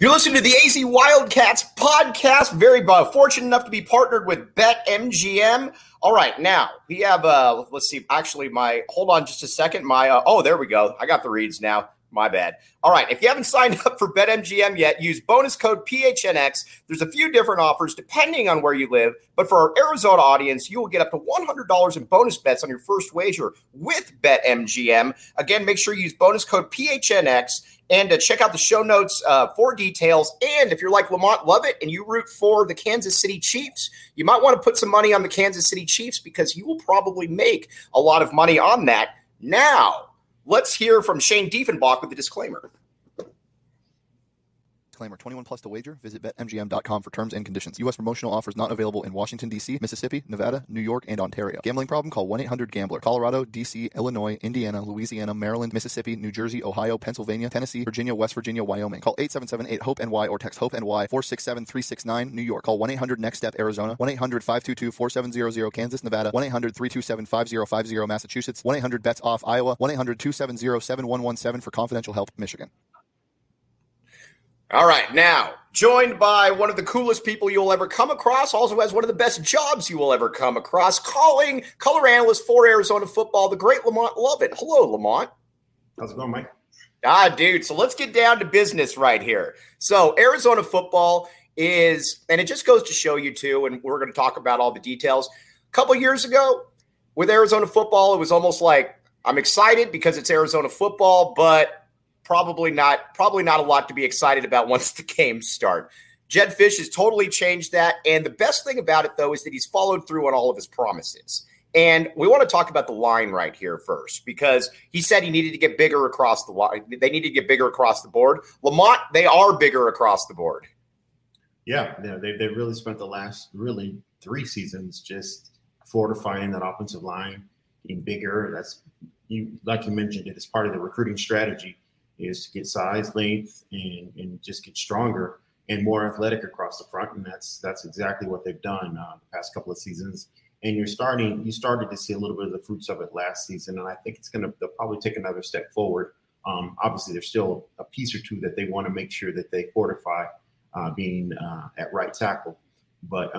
You're listening to the AZ Wildcats podcast. Very fortunate enough to be partnered with BetMGM. All right, now we have, let's see, actually hold on just a second. There we go. I got the reads now. My bad. All right, if you haven't signed up for BetMGM yet, use bonus code PHNX. There's a few different offers depending on where you live, but for our Arizona audience, you will get up to $100 in bonus bets on your first wager with BetMGM. Again, make sure you use bonus code PHNX and check out the show notes for details. And if you're like Lamont Lovett and you root for the Kansas City Chiefs, you might want to put some money on the Kansas City Chiefs because you will probably make a lot of money on that. Now, let's hear from Shane Diefenbach with the disclaimer. Disclaimer, 21 plus to wager. Visit BetMGM.com for terms and conditions. U.S. promotional offers not available in Washington, D.C., Mississippi, Nevada, New York, and Ontario. Gambling problem? Call 1-800-GAMBLER. Colorado, D.C., Illinois, Indiana, Louisiana, Maryland, Mississippi, New Jersey, Ohio, Pennsylvania, Tennessee, Virginia, West Virginia, Wyoming. Call 877-8-HOPE-NY or text HOPE-NY 467-369, New York. Call 1-800-NEXT-STEP, Arizona. 1-800-522-4700, Kansas, Nevada. 1-800-327-5050, Massachusetts. 1-800-BETS-OFF, Iowa. 1-800-270-7117 for confidential help, Michigan. All right, now, joined by one of the coolest people you'll ever come across, also has one of the best jobs you will ever come across, calling color analyst for Arizona football, the great Lamont Lovett. Hello, Lamont. How's it going, Mike? Dude, so let's get down to business right here. So Arizona football is, and it just goes to show you too, and we're going to talk about all the details. A couple years ago with Arizona football, it was almost like I'm excited because it's Arizona football, but probably not a lot to be excited about once the games start. Jedd Fisch has totally changed that. And the best thing about it, though, is that he's followed through on all of his promises. And we want to talk about the line right here first, because he said he needed to get bigger across the line. They needed to get bigger across the board. Lamont, they are bigger across the board. Yeah, they really spent the last really 3 seasons just fortifying that offensive line, getting bigger. Like you mentioned, it is part of the recruiting strategy, is to get size, length, and just get stronger and more athletic across the front. And that's exactly what they've done the past couple of seasons. And you started to see a little bit of the fruits of it last season. And I think they'll probably take another step forward. Obviously, there's still a piece or two that they want to make sure that they fortify being at right tackle. But,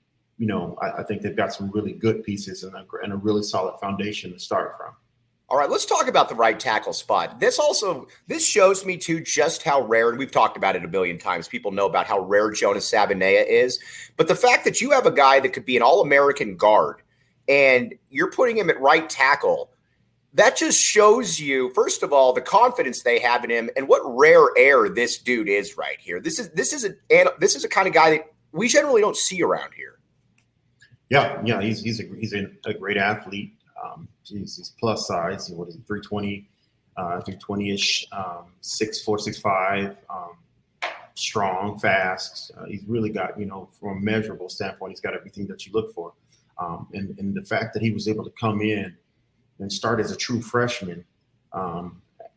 I think they've got some really good pieces and a really solid foundation to start from. All right, let's talk about the right tackle spot. This shows me, too, just how rare, and we've talked about it a billion times, people know about how rare Jonas Savaiinaea is. But the fact that you have a guy that could be an All-American guard and you're putting him at right tackle, that just shows you, first of all, the confidence they have in him and what rare air this dude is right here. This is a kind of guy that we generally don't see around here. Yeah, he's a great athlete. He's plus size. What is he? 320, 320-ish, 6'4", 6'5", strong, fast. He's really got, from a measurable standpoint, he's got everything that you look for. And the fact that he was able to come in and start as a true freshman, at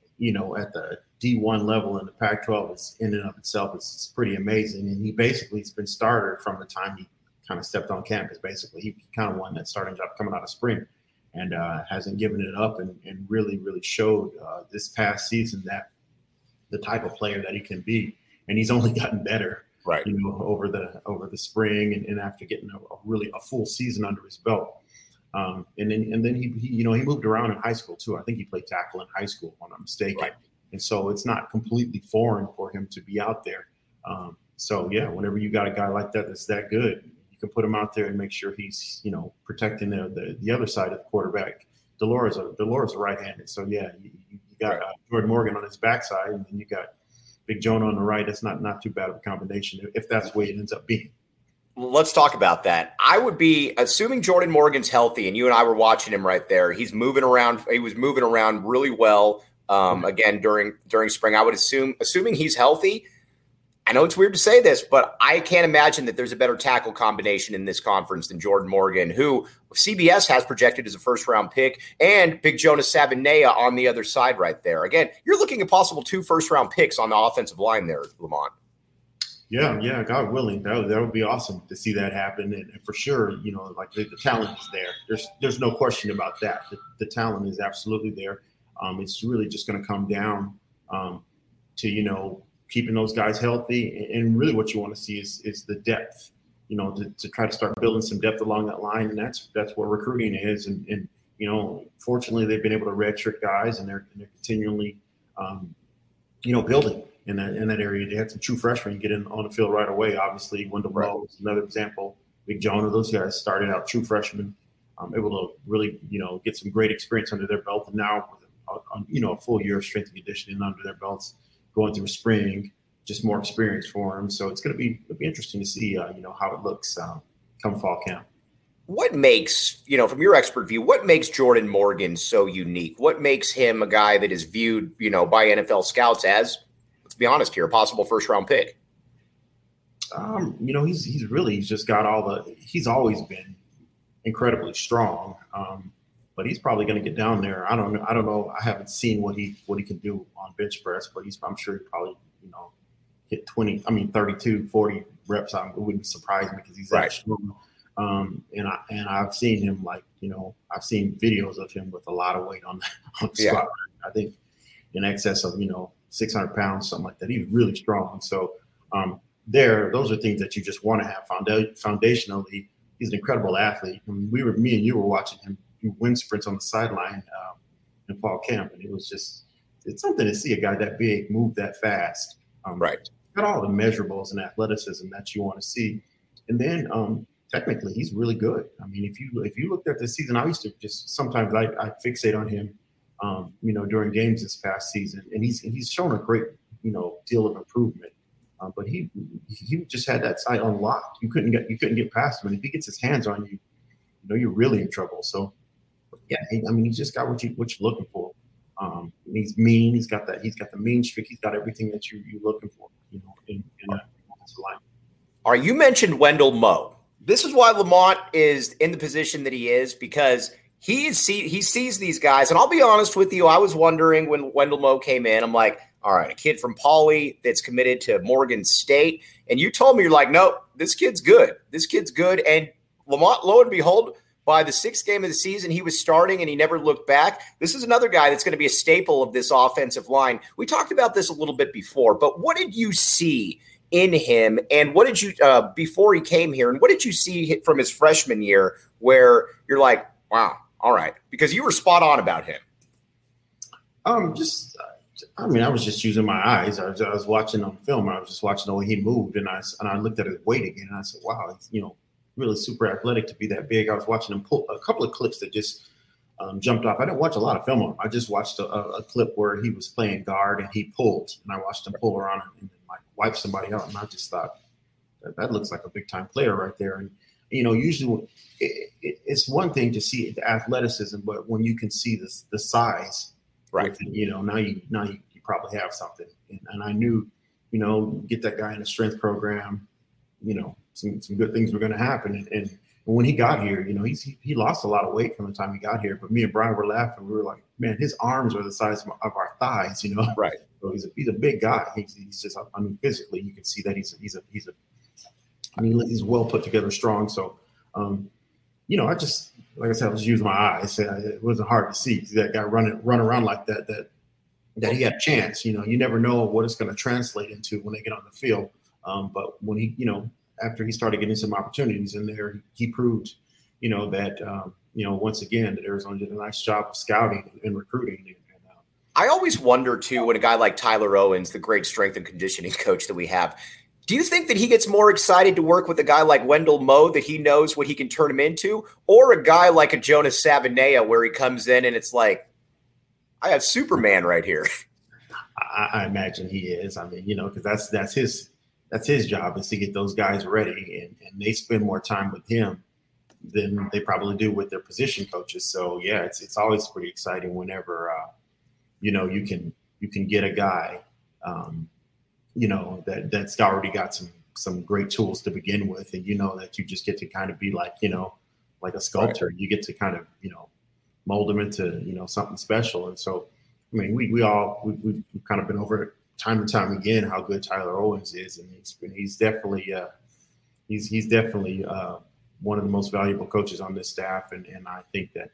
the D1 level in the Pac-12 is in and of itself is pretty amazing. And he basically has been starter from the time he kind of stepped on campus. Basically, he kind of won that starting job coming out of spring. And hasn't given it up and really, really showed this past season that the type of player that he can be. And he's only gotten better, right? Over the spring and after getting a full season under his belt. And then he moved around in high school too. I think he played tackle in high school, if I'm not mistaken. Right. And so it's not completely foreign for him to be out there. Whenever you got a guy like that that's that good, can put him out there and make sure he's, protecting the other side of the quarterback. Delores are right-handed. So, you got Jordan Morgan on his backside, and then you got Big Jonah on the right. That's not too bad of a combination if that's the way it ends up being. Let's talk about that. I would be assuming Jordan Morgan's healthy, and you and I were watching him right there. He's moving around. He was moving around really well, again, during spring. I would assuming he's healthy. I know it's weird to say this, but I can't imagine that there's a better tackle combination in this conference than Jordan Morgan, who CBS has projected as a first-round pick, and Big Jonas Savaiinaea on the other side right there. Again, you're looking at possible 2 first-round picks on the offensive line there, Lamont. Yeah, God willing, that would be awesome to see that happen. And for sure, the talent is there. There's no question about that. The talent is absolutely there. It's really just going to come down to, keeping those guys healthy. And really what you want to see is the depth, to try to start building some depth along that line. And that's where recruiting is. And fortunately they've been able to redshirt guys, and they're continually, building in that area. They had some true freshmen get in on the field right away. Obviously, Wendell Moe is another example. Big Jonah, those guys started out true freshmen, able to really, get some great experience under their belt. And now with a full year of strength and conditioning under their belts, going through spring, just more experience for them. So it'll be interesting to see, how it looks come fall camp. What makes, from your expert view, what makes Jordan Morgan so unique? What makes him a guy that is viewed, by NFL scouts as, let's be honest here, a possible first-round pick? He's just got he's always been incredibly strong. But he's probably going to get down there. I don't know. I haven't seen what he can do on bench press, but I'm sure he probably, hit 32, 40 reps. It wouldn't surprise me because he's that strong. And I've seen him I've seen videos of him with a lot of weight on the squat. I think in excess of, 600 pounds, something like that. He's really strong. So those are things that you just want to have. Foundationally, he's an incredible athlete. I mean, me and you were watching him do wind sprints on the sideline in fall camp, and it's something to see a guy that big move that fast. Got all the measurables and athleticism that you want to see, and then technically he's really good. I mean, if you looked at this season, I used to just sometimes I fixate on him, during games this past season, and he's shown a great deal of improvement. But he just had that side unlocked. You couldn't get past him, and if he gets his hands on you, you're really in trouble. So yeah, he's just got what you're looking for. He's mean. He's got the mean streak. He's got everything that you're looking for. In a line. All right, you mentioned Wendell Moe. This is why Lamont is in the position that he is, because he sees these guys. And I'll be honest with you, I was wondering when Wendell Moe came in, I'm like, all right, a kid from Pauley that's committed to Morgan State. And you told me, you're like, no, this kid's good. This kid's good. And Lamont, lo and behold, by the sixth game of the season, he was starting and he never looked back. This is another guy that's going to be a staple of this offensive line. We talked about this a little bit before, but what did you see in him, and what did you before he came here, and what did you see from his freshman year where you're like, wow, all right, because you were spot on about him? I was just using my eyes. I was watching on film. I was just watching the way he moved, and I looked at his weight again, and I said, wow, he's really super athletic to be that big. I was watching him pull a couple of clips that just jumped off. I didn't watch a lot of film on him. I just watched a clip where he was playing guard and he pulled, and I watched him pull around and wipe somebody out, and I just thought that looks like a big time player right there. And usually it's one thing to see the athleticism, but when you can see the size, right? Now you probably have something. And I knew, get that guy in a strength program, some good things were going to happen. And when he got here, he lost a lot of weight from the time he got here. But me and Brian were laughing. We were like, man, his arms are the size of our thighs, Right. So he's a big guy. He's just, physically, you can see that he's well put together, strong. So, I just, like I said, I was using my eyes. It wasn't hard to see that guy run around like that he had a chance. You never know what it's going to translate into when they get on the field. But when he, after he started getting some opportunities in there, he proved, that, once again, that Arizona did a nice job of scouting and recruiting. I always wonder, too, when a guy like Tyler Owens, the great strength and conditioning coach that we have, do you think that he gets more excited to work with a guy like Wendell Moe, that he knows what he can turn him into, or a guy like a Jonas Savaiinaea where he comes in and it's like, I have Superman right here? I imagine he is. Because that's his job, is to get those guys ready, and they spend more time with him than they probably do with their position coaches. So yeah, it's always pretty exciting whenever you can get a guy that's already got some great tools to begin with, and that you just get to kind of be like a sculptor. Right. You get to kind of mold them into something special. And so we've kind of been over it time and time again how good Tyler Owens is, and he's definitely one of the most valuable coaches on this staff, and I think that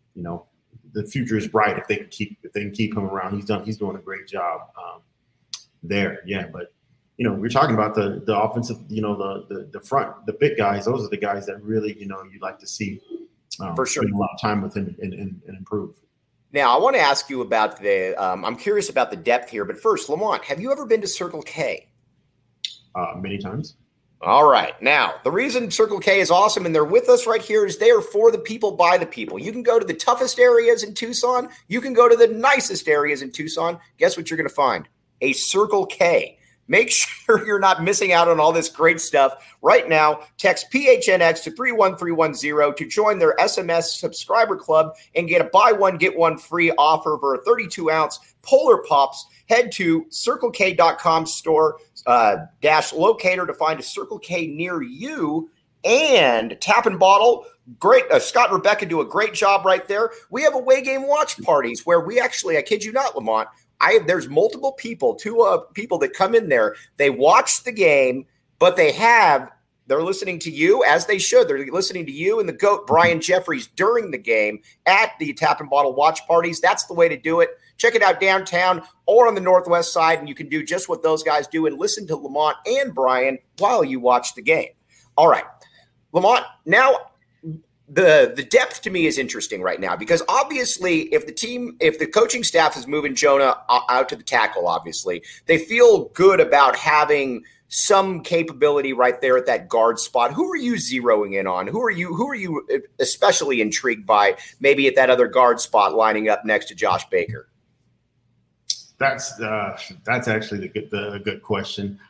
the future is bright if they can keep him around. He's doing a great job. there. Yeah, but we're talking about the offensive, the front, the big guys. Those are the guys that really, you'd like to see for sure spend a lot of time with him and improve. Now, I want to ask you about I'm curious about the depth here, but first, Lamont, have you ever been to Circle K? Many times. All right. Now, the reason Circle K is awesome and they're with us right here is they are for the people, by the people. You can go to the toughest areas in Tucson. You can go to the nicest areas in Tucson. Guess what you're going to find? A Circle K. Make sure you're not missing out on all this great stuff. Right now, text PHNX to 31310 to join their SMS subscriber club and get a buy one, get one free offer for a 32-ounce Polar Pops. Head to CircleK.com store dash locator to find a Circle K near you. And Tap and Bottle, great. Scott and Rebecca do a great job right there. We have away game watch parties where we actually, I kid you not, Lamont, there's multiple people, two people that come in there. They watch the game, but they're listening to you as they should. They're listening to you and the GOAT, Brian Jeffries, during the game at the Tap and Bottle watch parties. That's the way to do it. Check it out downtown or on the Northwest side, and you can do just what those guys do and listen to Lamont and Brian while you watch the game. All right, Lamont, now the depth to me is interesting right now because obviously if the coaching staff is moving Jonah out to the tackle, obviously they feel good about having some capability right there at that guard spot. Who are you zeroing in on? Who are you especially intrigued by maybe at that other guard spot lining up next to Josh Baker? That's actually the good question.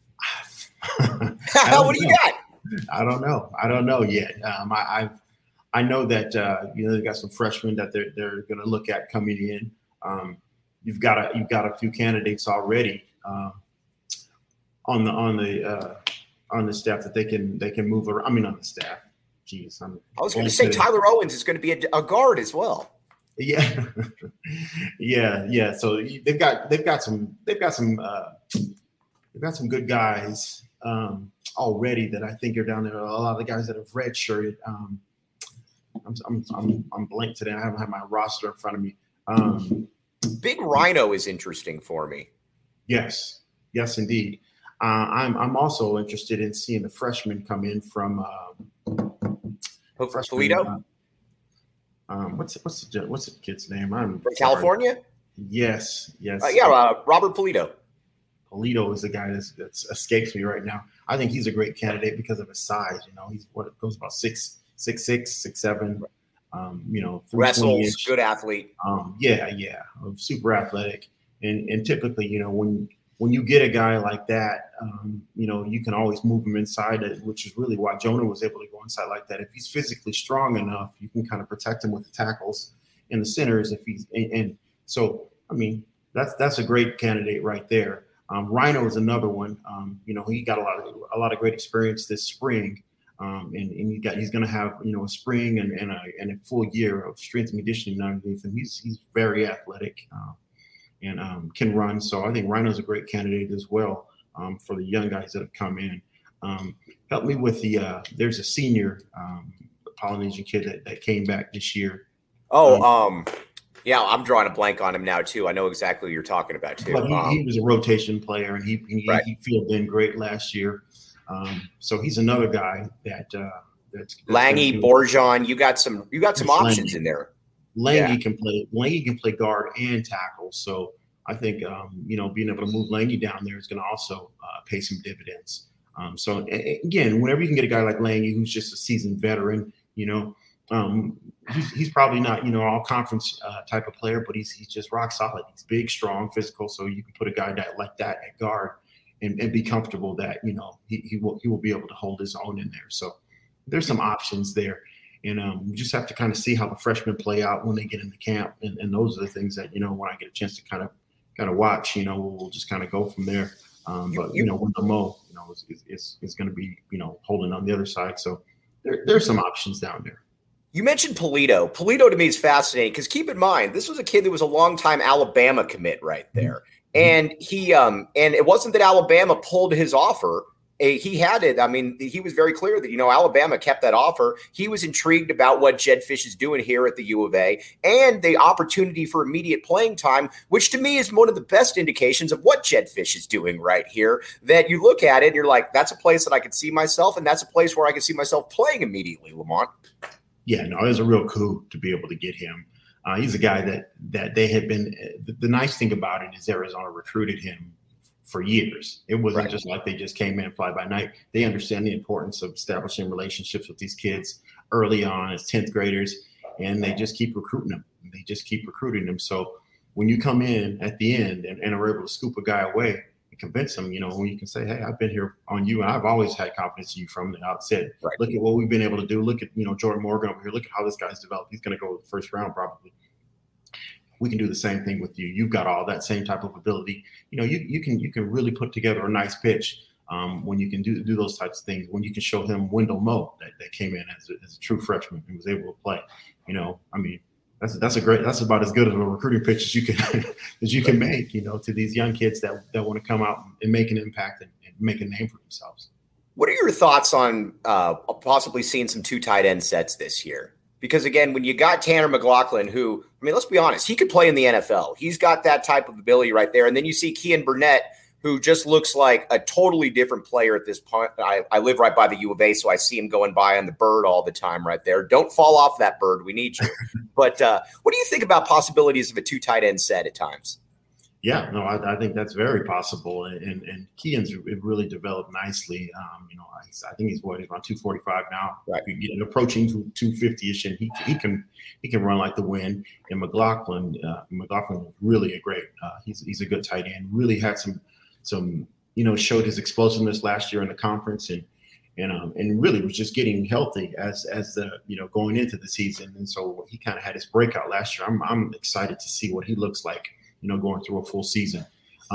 What do you got? I don't know yet. I know that they've got some freshmen that they're going to look at coming in. You've got a few candidates already on the staff that they can move around. I mean, on the staff. Jeez, I was going to say Tyler Owens is going to be a guard as well. Yeah, yeah. So they've got some good guys already that I think are down there. A lot of the guys that have redshirted. I'm blank today. I haven't had my roster in front of me. Big Rhino is interesting for me. Yes, indeed. I'm also interested in seeing the freshmen come in from Polito. What's the kid's name? From California. Yes. Robert Polito. Polito is the guy that escapes me right now. I think he's a great candidate because of his size. He's goes about 6'6", 6'7". Wrestles, good athlete. Super athletic, and typically, when you get a guy like that, you can always move him inside it, which is really why Jonah was able to go inside like that. If he's physically strong enough, you can kind of protect him with the tackles and the centers. That's a great candidate right there. Rhino is another one. He got a lot of great experience this spring. And he's going to have a spring and a full year of strength and conditioning underneath him. He's very athletic and can run. So I think Rhino's a great candidate as well for the young guys that have come in. Help me with there's a senior Polynesian kid that came back this year. Yeah, I'm drawing a blank on him now too. I know exactly what you're talking about too. But he was a rotation player and he filled in great last year. So he's another guy that's Lange, Borjan. You got some options in there. Lange can play guard and tackle. So I think being able to move Lange down there is going to also pay some dividends. So again, whenever you can get a guy like Lange who's just a seasoned veteran, he's probably not all conference type of player, but he's just rock solid. He's big, strong, physical. So you can put a guy like that at guard. And be comfortable that he will be able to hold his own in there. So there's some options there, and we just have to kind of see how the freshmen play out when they get into camp, and those are the things that when I get a chance to kind of watch, we'll just kind of go from there. But Wendell Moe, is going to be holding on the other side. So there's some options down there. You mentioned Polito. Polito to me is fascinating because keep in mind this was a kid that was a longtime Alabama commit right there. And he and it wasn't that Alabama pulled his offer. he had it. I mean, he was very clear that, Alabama kept that offer. He was intrigued about what Jedd Fisch is doing here at the U of A and the opportunity for immediate playing time, which to me is one of the best indications of what Jedd Fisch is doing right here, that you look at it and you're like, that's a place that I could see myself, and that's a place where I could see myself playing immediately, Lamont. Yeah, no, it was a real coup to be able to get him. He's a guy that they had been – the nice thing about it is Arizona recruited him for years. It wasn't just like they just came in fly by night. They understand the importance of establishing relationships with these kids early on as 10th graders, and they just keep recruiting them. They just keep recruiting them. So when you come in at the end and are able to scoop a guy away and convince him, when you can say, hey, I've been here on you, and I've always had confidence in you from the outset. Right. Look at what we've been able to do. Look at, Jordan Morgan over here. Look at how this guy's developed. He's going to go the first round probably. We can do the same thing with you. You've got all that same type of ability. You can really put together a nice pitch when you can do those types of things. When you can show him Wendell Moe that came in as a true freshman and was able to play. That's about as good of a recruiting pitch as you can make. To these young kids that want to come out and make an impact and make a name for themselves. What are your thoughts on possibly seeing some 2 tight end sets this year? Because, again, when you got Tanner McLaughlin, who, let's be honest, he could play in the NFL. He's got that type of ability right there. And then you see Kean Burnett, who just looks like a totally different player at this point. I live right by the U of A, so I see him going by on the bird all the time right there. Don't fall off that bird. We need you. But what do you think about possibilities of a 2 tight end set at times? Yeah, no, I think that's very possible, and Kean's really developed nicely. I think he's around 245 now, right? Approaching 250ish, and he can run like the wind. And McLaughlin was really a great. He's a good tight end. Really had some showed his explosiveness last year in the conference, and really was just getting healthy as the going into the season. And so he kind of had his breakout last year. I'm excited to see what he looks like. Going through a full season.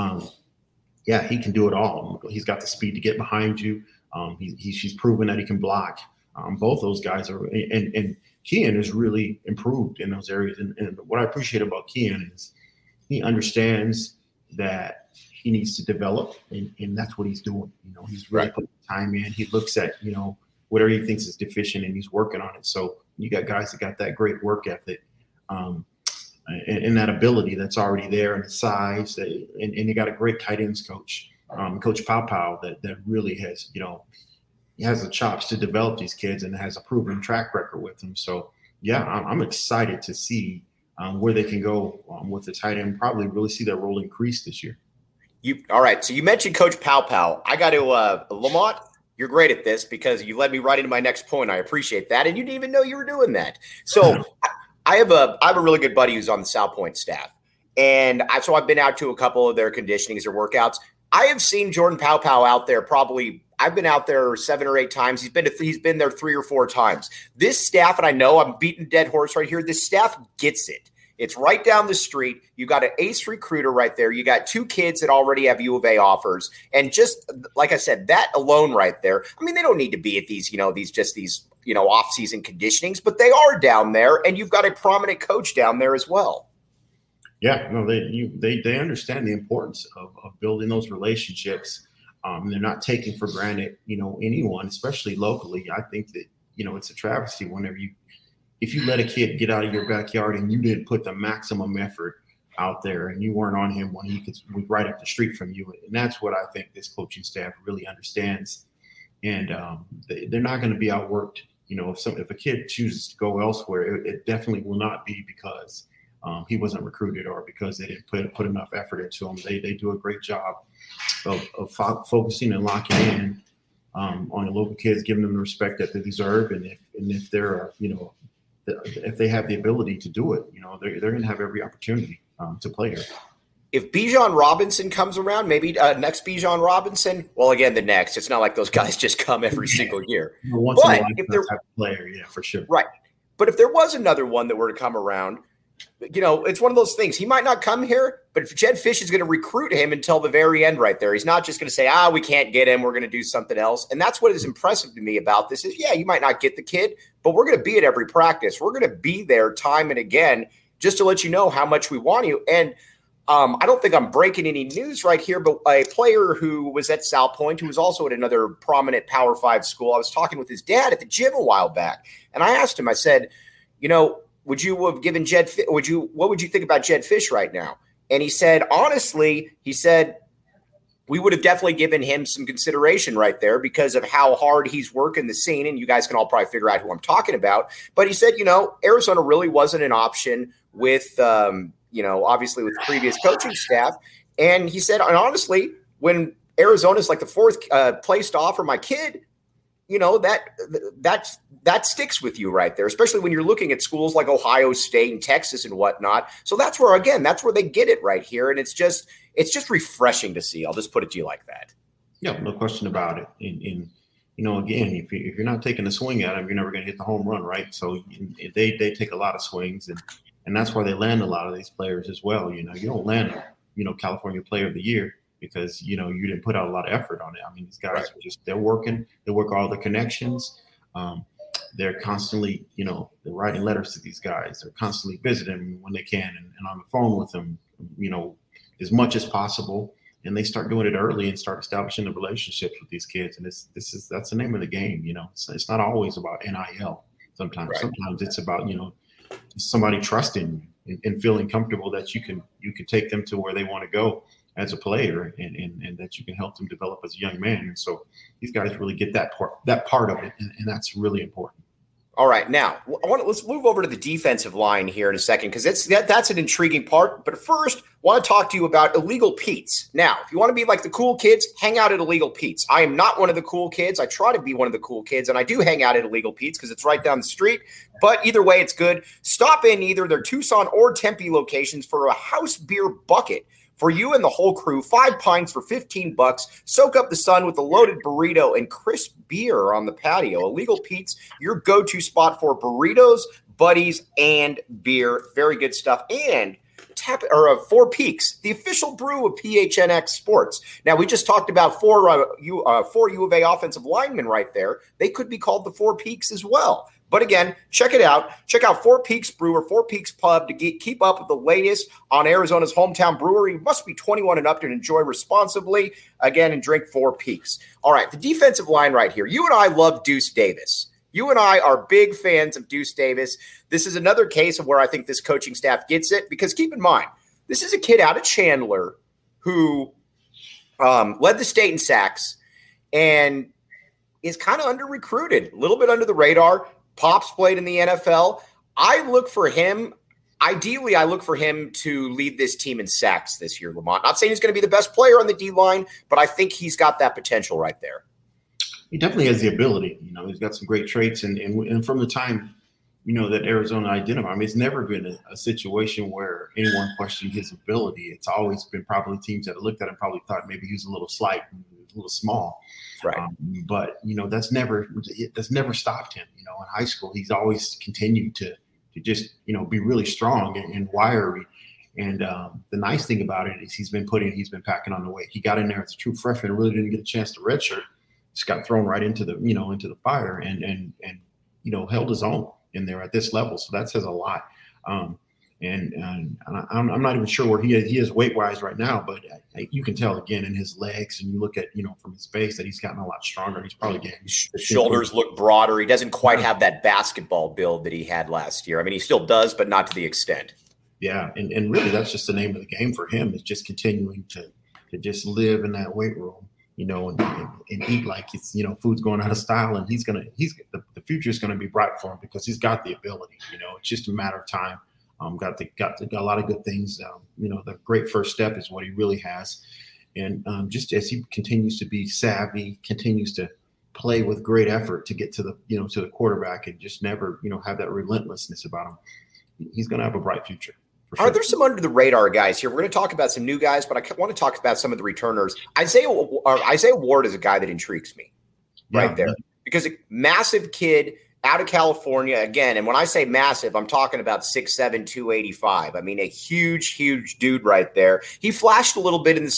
He can do it all. He's got the speed to get behind you. He's proven that he can block. Both those guys are, and Kean has really improved in those areas. And what I appreciate about Kean is he understands that he needs to develop, and that's what he's doing. He's really putting time in. He looks at, whatever he thinks is deficient, and he's working on it. So you got guys that got that great work ethic. And that ability that's already there, and the size, and you got a great tight ends coach, Coach Pau that really has, he has the chops to develop these kids and has a proven track record with them. So yeah, I'm excited to see where they can go with the tight end. Probably really see their role increase this year. All right. So you mentioned Coach Pau. I got to Lamont. You're great at this because you led me right into my next point. I appreciate that, and you didn't even know you were doing that. So. I have a really good buddy who's on the South Point staff, and so I've been out to a couple of their conditionings or workouts. I have seen Jordan Pau out there I've been out there 7 or 8 times. He's been there 3 or 4 times. This staff, and I know I'm beating a dead horse right here, this staff gets it. It's right down the street. You got an ace recruiter right there. You got 2 kids that already have U of A offers. And just like I said, that alone right there, they don't need to be at these off-season conditionings, but they are down there, and you've got a prominent coach down there as well. Yeah, no, they understand the importance of building those relationships. They're not taking for granted, anyone, especially locally. I think that, it's a travesty whenever if you let a kid get out of your backyard and you didn't put the maximum effort out there and you weren't on him when he was right up the street from you. And that's what I think this coaching staff really understands. And they're not going to be outworked. If a kid chooses to go elsewhere, it definitely will not be because he wasn't recruited or because they didn't put enough effort into him. They do a great job of focusing and locking in on the local kids, giving them the respect that they deserve. And if they're if they have the ability to do it, they're going to have every opportunity to play here. If Bijan Robinson comes around, maybe next Bijan Robinson, well, again, the next. It's not like those guys just come every single year. Once in a lifetime type of player, yeah, for sure. Right. But if there was another one that were to come around, it's one of those things. He might not come here, but if Jedd Fisch is going to recruit him until the very end right there, he's not just going to say, we can't get him, we're going to do something else. And that's what is impressive to me about this is, you might not get the kid, but we're going to be at every practice. We're going to be there time and again just to let you know how much we want you. And I don't think I'm breaking any news right here, but a player who was at South Point, who was also at another prominent Power 5 school, I was talking with his dad at the gym a while back, and I asked him, I said, would you have given what would you think about Jedd Fisch right now? And he said, honestly, we would have definitely given him some consideration right there because of how hard he's working the scene. And you guys can all probably figure out who I'm talking about. But he said, Arizona really wasn't an option with, obviously with previous coaching staff. And he said, and honestly, when Arizona's like the fourth place to offer my kid, that sticks with you right there, especially when you're looking at schools like Ohio State and Texas and whatnot. So that's where they get it right here. And it's just refreshing to see. I'll just put it to you like that. Yeah, no question about it. And again, if you're not taking a swing at them, you're never going to hit the home run, right? So they take a lot of swings, and that's where they land a lot of these players as well. You don't land, California Player of the Year because, you didn't put out a lot of effort on it. I mean, these guys are they're working. They work all the connections. They're constantly, they're writing letters to these guys. They're constantly visiting them when they can and on the phone with them, as much as possible. And they start doing it early and start establishing the relationships with these kids. And that's the name of the game. It's not always about NIL. Sometimes it's about, somebody trusting you and feeling comfortable that you can take them to where they want to go as a player and that you can help them develop as a young man. And so these guys really get that part of it. And that's really important. All right. Now let's move over to the defensive line here in a second, because that's an intriguing part. But first, I want to talk to you about Illegal Pete's. Now, if you want to be like the cool kids, hang out at Illegal Pete's. I am not one of the cool kids. I try to be one of the cool kids, and I do hang out at Illegal Pete's because it's right down the street. But either way, it's good. Stop in either their Tucson or Tempe locations for a house beer bucket. For you and the whole crew, 5 pints for $15. Soak up the sun with a loaded burrito and crisp beer on the patio. Illegal Pete's, your go-to spot for burritos, buddies, and beer. Very good stuff. And Four Peaks, the official brew of PHNX Sports. Now, we just talked about four U of A offensive linemen right there. They could be called the Four Peaks as well. But again, check it out. Check out Four Peaks Brewer, Four Peaks Pub to keep up with the latest on Arizona's hometown brewery. You must be 21 and up to enjoy responsibly. Again, and drink Four Peaks. All right, the defensive line right here. You and I love Deuce Davis. You and I are big fans of Deuce Davis. This is another case of where I think this coaching staff gets it, because keep in mind, this is a kid out of Chandler who led the state in sacks and is kind of under-recruited, a little bit under the radar. Pops played in the NFL. Ideally, I look for him to lead this team in sacks this year, Lamont. Not saying he's going to be the best player on the D-line, but I think he's got that potential right there. He definitely has the ability. He's got some great traits. And from the time, that Arizona identified, it's never been a situation where anyone questioned his ability. It's always been probably teams that looked at him probably thought maybe he was a little slight, a little small. Right. But that's never stopped him. In high school, he's always continued to just, be really strong and wiry. And the nice thing about it is he's been packing on the weight. He got in there as a true freshman, really didn't get a chance to redshirt. Just got thrown right into the fire and held his own in there at this level. So that says a lot. And I'm not even sure where he is weight wise right now, but you can tell again in his legs, and you look at from his face that he's gotten a lot stronger. He's probably getting his shoulders look broader. He doesn't quite have that basketball build that he had last year. I mean, he still does, but not to the extent. Yeah, and really that's just the name of the game for him, is just continuing to just live in that weight room. And eat like it's, food's going out of style, and the future is going to be bright for him because he's got the ability. It's just a matter of time. Got a lot of good things. The great first step is what he really has, and just as he continues to be savvy, continues to play with great effort to get to the to the quarterback, and just never have that relentlessness about him, he's going to have a bright future. Sure. Are there some under the radar guys here? We're going to talk about some new guys, but I want to talk about some of the returners. Isaiah Ward is a guy that intrigues me right there, because a massive kid out of California again. And when I say massive, I'm talking about 6'7", 285. I mean, a huge, huge dude right there. He flashed a little bit in the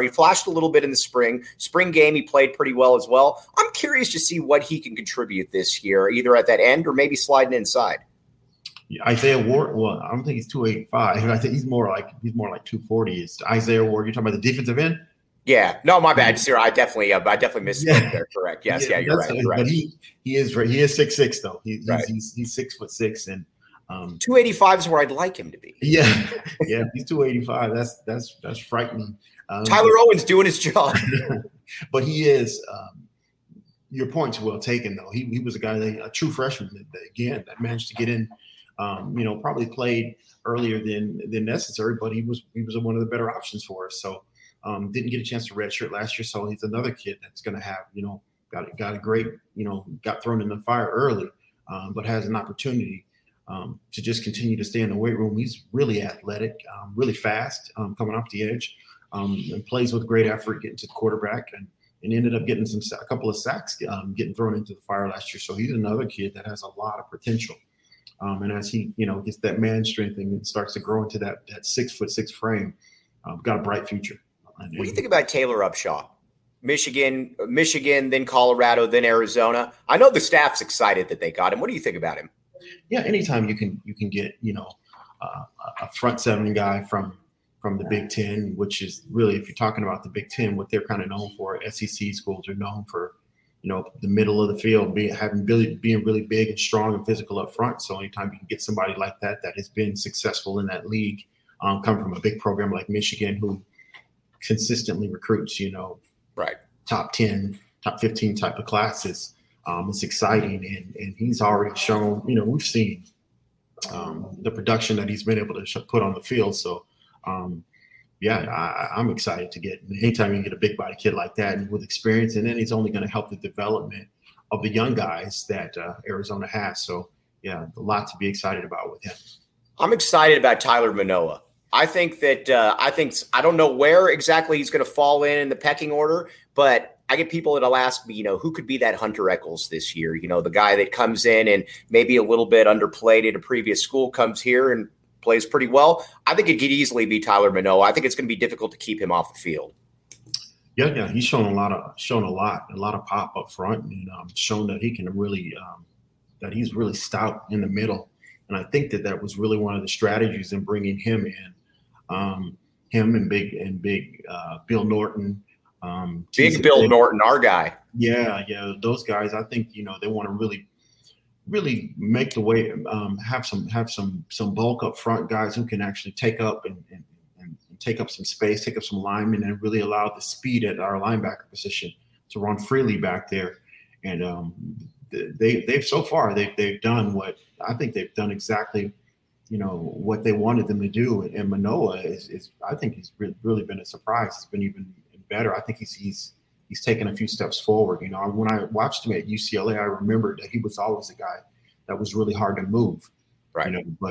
spring game. He played pretty well as well. I'm curious to see what he can contribute this year, either at that end or maybe sliding inside. Isaiah Ward. Well, I don't think he's 285. I think he's more like 240. Is Isaiah Ward? You're talking about the defensive end? Yeah. No, my bad, sir. I definitely misspoke there. Correct. Yes. Yeah. You're right. But he is 6'6" though. He's right. he's 6'6" and 285 is where I'd like him to be. Yeah. Yeah. He's 285. That's frightening. Tyler Owens doing his job. But he is. Your point's well taken, though. He was a true freshman that managed to get in. Probably played earlier than necessary, but he was one of the better options for us. So didn't get a chance to redshirt last year. So he's another kid that's going to have got a great got thrown in the fire early, but has an opportunity to just continue to stay in the weight room. He's really athletic, really fast, coming off the edge, and plays with great effort, getting to the quarterback and ended up getting a couple of sacks, getting thrown into the fire last year. So he's another kid that has a lot of potential. And as he, gets that man strength and starts to grow into that 6'6" frame, got a bright future. What do you think about Taylor Upshaw? Michigan, then Colorado, then Arizona. I know the staff's excited that they got him. What do you think about him? Yeah, anytime you can get a front seven guy from the Big Ten, which is really, if you're talking about the Big Ten, what they're kind of known for, SEC schools are known for, the middle of the field, being really big and strong and physical up front. So anytime you can get somebody like that has been successful in that league, come from a big program like Michigan, who consistently recruits, right, top 10, top 15 type of classes. It's exciting, and he's already shown. We've seen the production that he's been able to put on the field. So. I'm excited to get anytime you get a big body kid like that and with experience, and then he's only going to help the development of the young guys that Arizona has. So a lot to be excited about with him. I'm excited about Tyler Manoa. I think that I don't know where exactly he's going to fall in the pecking order, but I get people that'll ask me, who could be that Hunter Echols this year? The guy that comes in and maybe a little bit underplayed at a previous school, comes here and plays pretty well. I think it could easily be Tyler Manoa. I think it's going to be difficult to keep him off the field. Yeah, he's shown a lot of pop up front, and shown that he can really that he's really stout in the middle. And I think that was really one of the strategies in bringing him in. Him and big Bill Norton. Big Bill Norton, our guy. Yeah, those guys. I think they want to really make the way, have some bulk up front, guys who can actually take up and take up some space, take up some linemen, and really allow the speed at our linebacker position to run freely back there. And they've so far they've done what I think they've done exactly, what they wanted them to do. And Manoa is I think he's really been a surprise. He's been even better. I think he's taken a few steps forward. When I watched him at UCLA, I remembered that he was always a guy that was really hard to move. Right.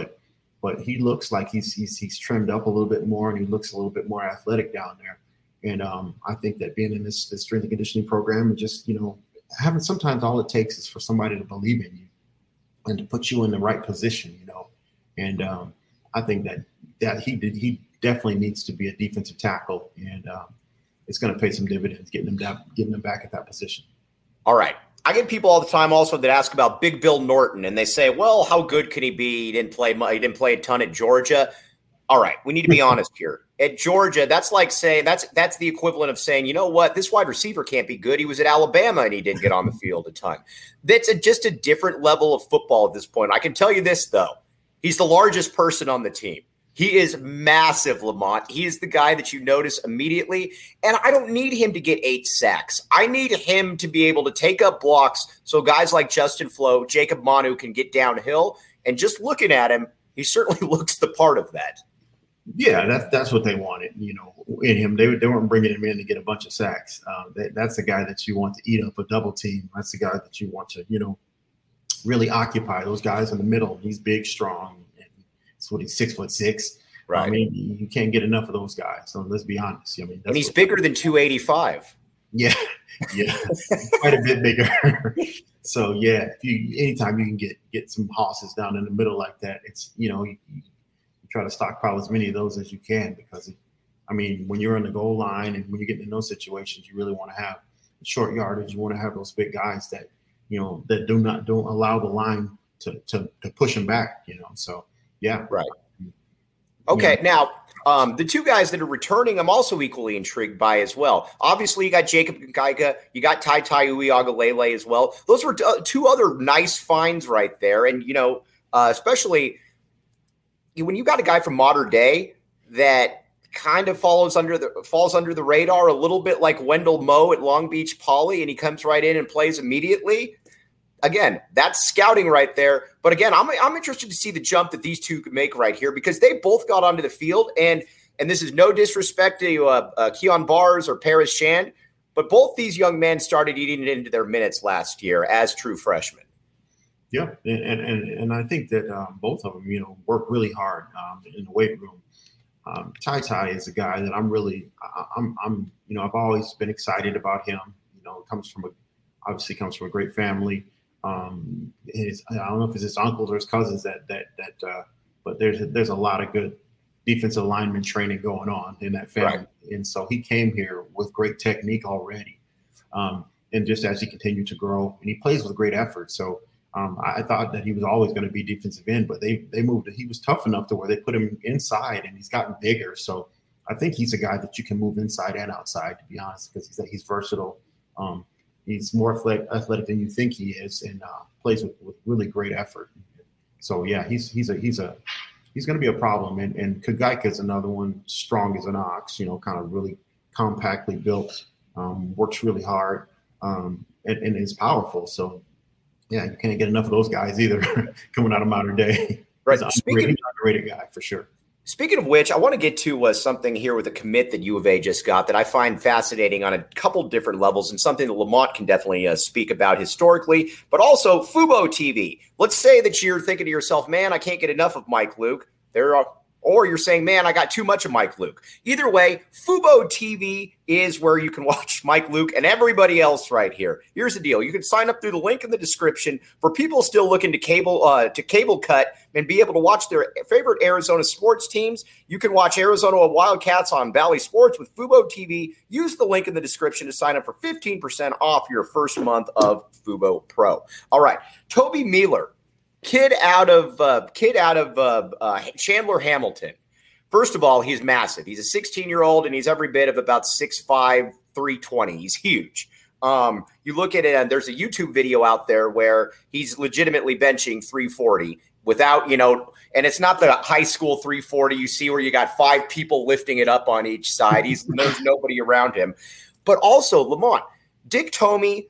But he looks like he's trimmed up a little bit more, and he looks a little bit more athletic down there. And I think that being in this strength and conditioning program, and just having, sometimes all it takes is for somebody to believe in you and to put you in the right position. And I think that he definitely needs to be a defensive tackle, and it's going to pay some dividends getting them back at that position. All right. I get people all the time also that ask about Big Bill Norton, and they say, well, how good can he be? He didn't play a ton at Georgia. All right. We need to be honest here. At Georgia, that's like saying that's the equivalent of saying, you know what, this wide receiver can't be good. He was at Alabama and he didn't get on the field a ton. That's just a different level of football at this point. I can tell you this, though. He's the largest person on the team. He is massive, Lamont. He is the guy that you notice immediately. And I don't need him to get 8 sacks. I need him to be able to take up blocks so guys like Justin Flo, Jacob Manu can get downhill. And just looking at him, he certainly looks the part of that. Yeah, that's what they wanted, in him. They weren't bringing him in to get a bunch of sacks. That's the guy that you want to eat up a double team. That's the guy that you want to, really occupy those guys in the middle. He's big, strong. That's what he's 6'6". Right. I mean, you can't get enough of those guys. So let's be honest. I mean, and he's bigger than 285. Yeah, quite a bit bigger. So yeah, anytime you can get some hosses down in the middle like that, it's you try to stockpile as many of those as you can, because when you're on the goal line and when you're getting in those situations, you really want to have short yardage. You want to have those big guys that that don't allow the line to push him back. So yeah, right. Okay, now the two guys that are returning, I'm also equally intrigued by as well. Obviously, you got Jacob Geiga, you got Tai Uiagalelei as well. Those were two other nice finds right there, and especially when you got a guy from Mater Dei that kind of falls under the radar a little bit, like Wendell Moe at Long Beach Poly, and he comes right in and plays immediately. Again, that's scouting right there. But again, I'm interested to see the jump that these two could make right here, because they both got onto the field, and this is no disrespect to Keon Bars or Paris Shand, but both these young men started eating it into their minutes last year as true freshmen. Yeah, and I think that both of them, work really hard in the weight room. Tai is a guy that I've always been excited about him. Comes from a great family. I don't know if it's his uncles or his cousins but there's a lot of good defensive lineman training going on in that family. Right. And so he came here with great technique already. And just as he continued to grow, and he plays with great effort. So I thought that he was always going to be defensive end, but they moved. He was tough enough to where they put him inside, and he's gotten bigger. So I think he's a guy that you can move inside and outside, to be honest, because he's versatile. He's more athletic than you think he is, and plays with really great effort. So yeah, he's going to be a problem. And Kagaika is another one, strong as an ox. Kind of really compactly built, works really hard, and is powerful. So yeah, you can't get enough of those guys either coming out of Mater Dei. Right, he's an underrated guy for sure. Speaking of which, I want to get to something here with a commit that U of A just got that I find fascinating on a couple different levels, and something that Lamont can definitely speak about historically, but also Fubo TV. Let's say that you're thinking to yourself, man, I can't get enough of Mike Luke. Or you're saying, man, I got too much of Mike Luke. Either way, Fubo TV is where you can watch Mike Luke and everybody else right here. Here's the deal. You can sign up through the link in the description for people still looking to cable cut and be able to watch their favorite Arizona sports teams. You can watch Arizona Wildcats on Bally Sports with Fubo TV. Use the link in the description to sign up for 15% off your first month of Fubo Pro. All right, Toby Mealer. Kid out of Chandler Hamilton. First of all, he's massive. He's a 16-year-old, and he's every bit of about 6'5", 320. He's huge. You look at it, and there's a YouTube video out there where he's legitimately benching 340 without, and it's not the high school 340 you see where you got 5 people lifting it up on each side. There's nobody around him. But also, Lamont, Dick Tomey,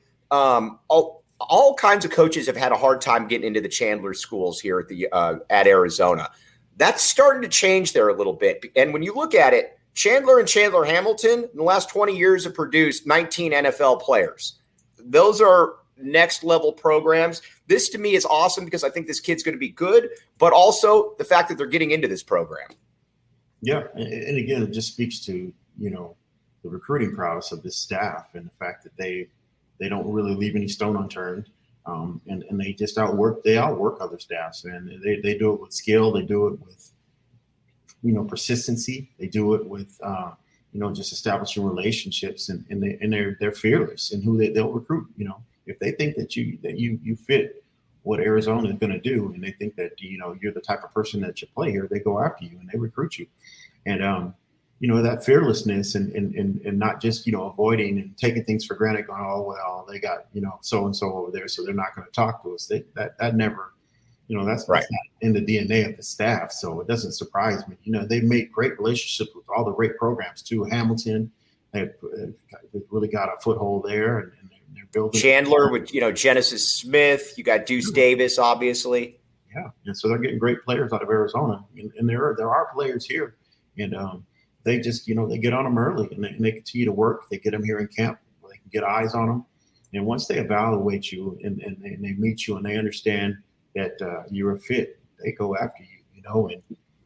all kinds of coaches have had a hard time getting into the Chandler schools here at Arizona. That's starting to change there a little bit. And when you look at it, Chandler and Chandler Hamilton in the last 20 years have produced 19 NFL players. Those are next level programs. This to me is awesome because I think this kid's going to be good, but also the fact that they're getting into this program. Yeah. And again, it just speaks to, the recruiting prowess of this staff and the fact that they don't really leave any stone unturned, and they just outwork other staffs, and they do it with skill. They do it with, persistency. They do it with, just establishing relationships, and they're fearless in who they'll recruit. If they think that you fit what Arizona is going to do, and they think that you're the type of person that should play here, they go after you and they recruit you, and that fearlessness and not just, avoiding and taking things for granted, going, oh, well, they got, so-and-so over there, so they're not going to talk to us. That never, that's not in the DNA of the staff. So it doesn't surprise me. They've made great relationships with all the great programs too. Hamilton, they've really got a foothold there, and they're building. Chandler with, Genesis Smith, you got Deuce Davis, obviously. Yeah. And so they're getting great players out of Arizona, and there are players here, and, they just, they get on them early and they continue to work. They get them here in camp where they can get eyes on them. And once they evaluate you and they meet you and they understand that you're a fit, they go after you,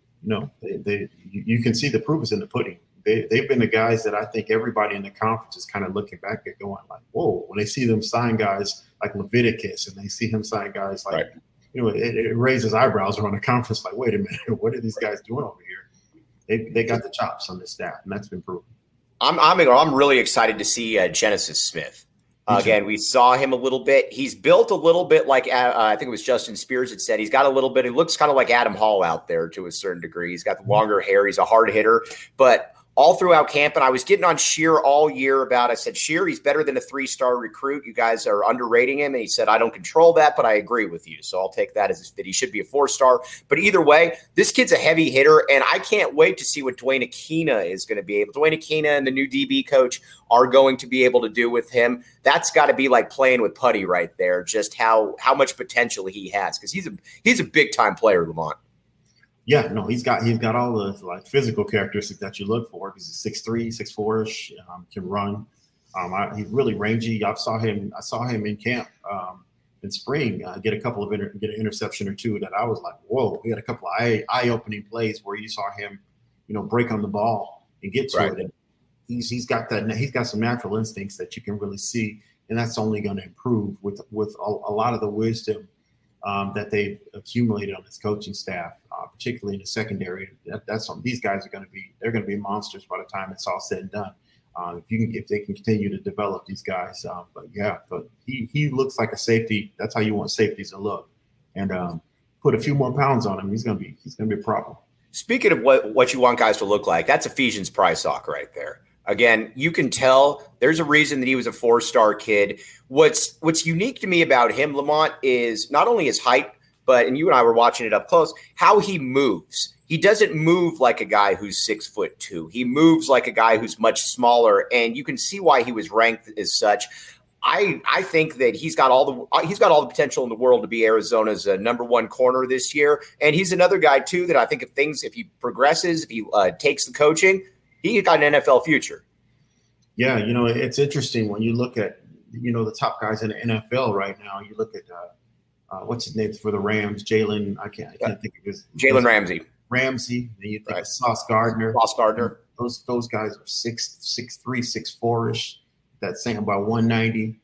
you can see the proof is in the pudding. They've been the guys that I think everybody in the conference is kind of looking back at going like, whoa, when they see them sign guys like Leviticus and they see him sign guys like, it raises eyebrows around the conference like, wait a minute, what are these guys doing over here? They got the chops on this staff, and that's been proven. I'm really excited to see Genesis Smith. Again, we saw him a little bit. He's built a little bit like, I think it was Justin Spears that said, he's got a little bit, he looks kind of like Adam Hall out there to a certain degree. He's got the longer hair. He's a hard hitter, but all throughout camp, and I was getting on Scheer all year about, I said, Scheer, he's better than a 3-star recruit. You guys are underrating him. And he said, I don't control that, but I agree with you. So I'll take that as that he should be a 4-star. But either way, this kid's a heavy hitter, and I can't wait to see what Dwayne Aquina is going to be able. Dwayne Aquina and the new DB coach are going to be able to do with him. That's got to be like playing with putty right there, just how much potential he has, because he's a big-time player, Lamont. Yeah, no, he's got all the like physical characteristics that you look for. He's a 6'3", 6'4", can run. He's really rangy. I saw him in camp in spring get an interception or two that I was like, whoa. He had a couple of eye-opening plays where you saw him, break on the ball and get to it. And he's got some natural instincts that you can really see, and that's only going to improve with a lot of the wisdom that they've accumulated on this coaching staff, particularly in the secondary. These guys they're going to be monsters by the time it's all said and done. If they can continue to develop these guys, but he looks like a safety. That's how you want safeties to look, and put a few more pounds on him. He's going to be a problem. Speaking of what you want guys to look like, that's Ephesians Prysock right there. Again, you can tell there's a reason that he was a 4-star kid. What's unique to me about him, Lamont, is not only his height, but, and you and I were watching it up close, how he moves. He doesn't move like a guy who's 6'2". He moves like a guy who's much smaller, and you can see why he was ranked as such. I think that he's got all the potential in the world to be Arizona's number 1 corner this year, and he's another guy too that I think if he progresses, if he takes the coaching, he got an NFL future. Yeah, it's interesting when you look at, the top guys in the NFL right now. You look at what's his name for the Rams, Jalen. I can't think of his. Jalen Ramsey. Then you think of Sauce Gardner. Those guys are 6'3", 6'4" That's saying about 190.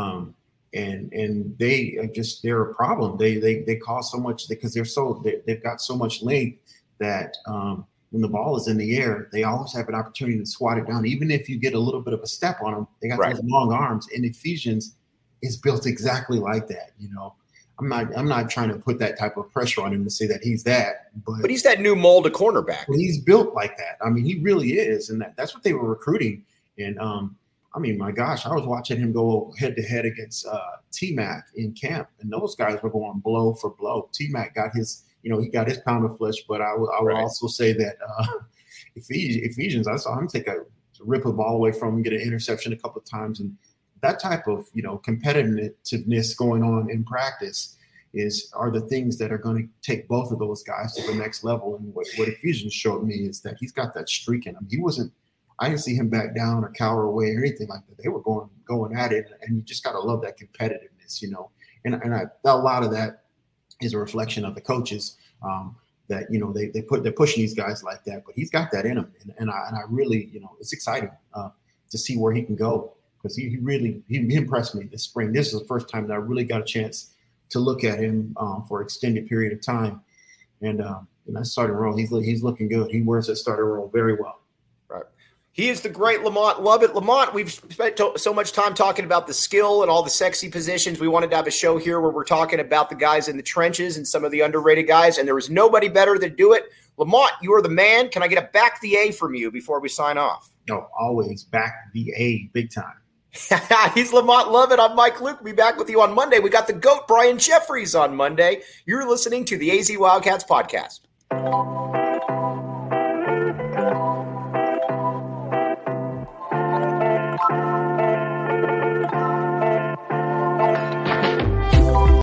And they're a problem. They cause so much because they've got so much length that when the ball is in the air, they always have an opportunity to swat it down. Even if you get a little bit of a step on them, they got those long arms. And Ephesians is built exactly like that. I'm not trying to put that type of pressure on him to say that he's that, but he's that new mold of cornerback. He's built like that. I mean, he really is, and that's what they were recruiting. And my gosh, I was watching him go head to head against T-Mac in camp, and those guys were going blow for blow. T-Mac got his. He got his pound of flesh, but I would also say that Ephesians, I saw him rip a ball away from him, get an interception a couple of times, and that type of competitiveness going on in practice are the things that are going to take both of those guys to the next level. And what Ephesians showed me is that he's got that streak in him. I didn't see him back down or cower away or anything like that. They were going at it, and you just got to love that competitiveness, And a lot of that is a reflection of the coaches that they're pushing these guys like that, but he's got that in him, and I really it's exciting to see where he can go, because he impressed me this spring. This is the first time that I really got a chance to look at him for an extended period of time, and that starting role, he's looking good. He wears that starting role very well. He is the great Lamont Lovett. Lamont, we've spent so much time talking about the skill and all the sexy positions. We wanted to have a show here where we're talking about the guys in the trenches and some of the underrated guys, and there was nobody better to do it. Lamont, you are the man. Can I get a back the A from you before we sign off? No, always back the A, big time. He's Lamont Lovett. I'm Mike Luke. We'll be back with you on Monday. We got the GOAT, Brian Jeffries, on Monday. You're listening to the AZ Wildcats podcast.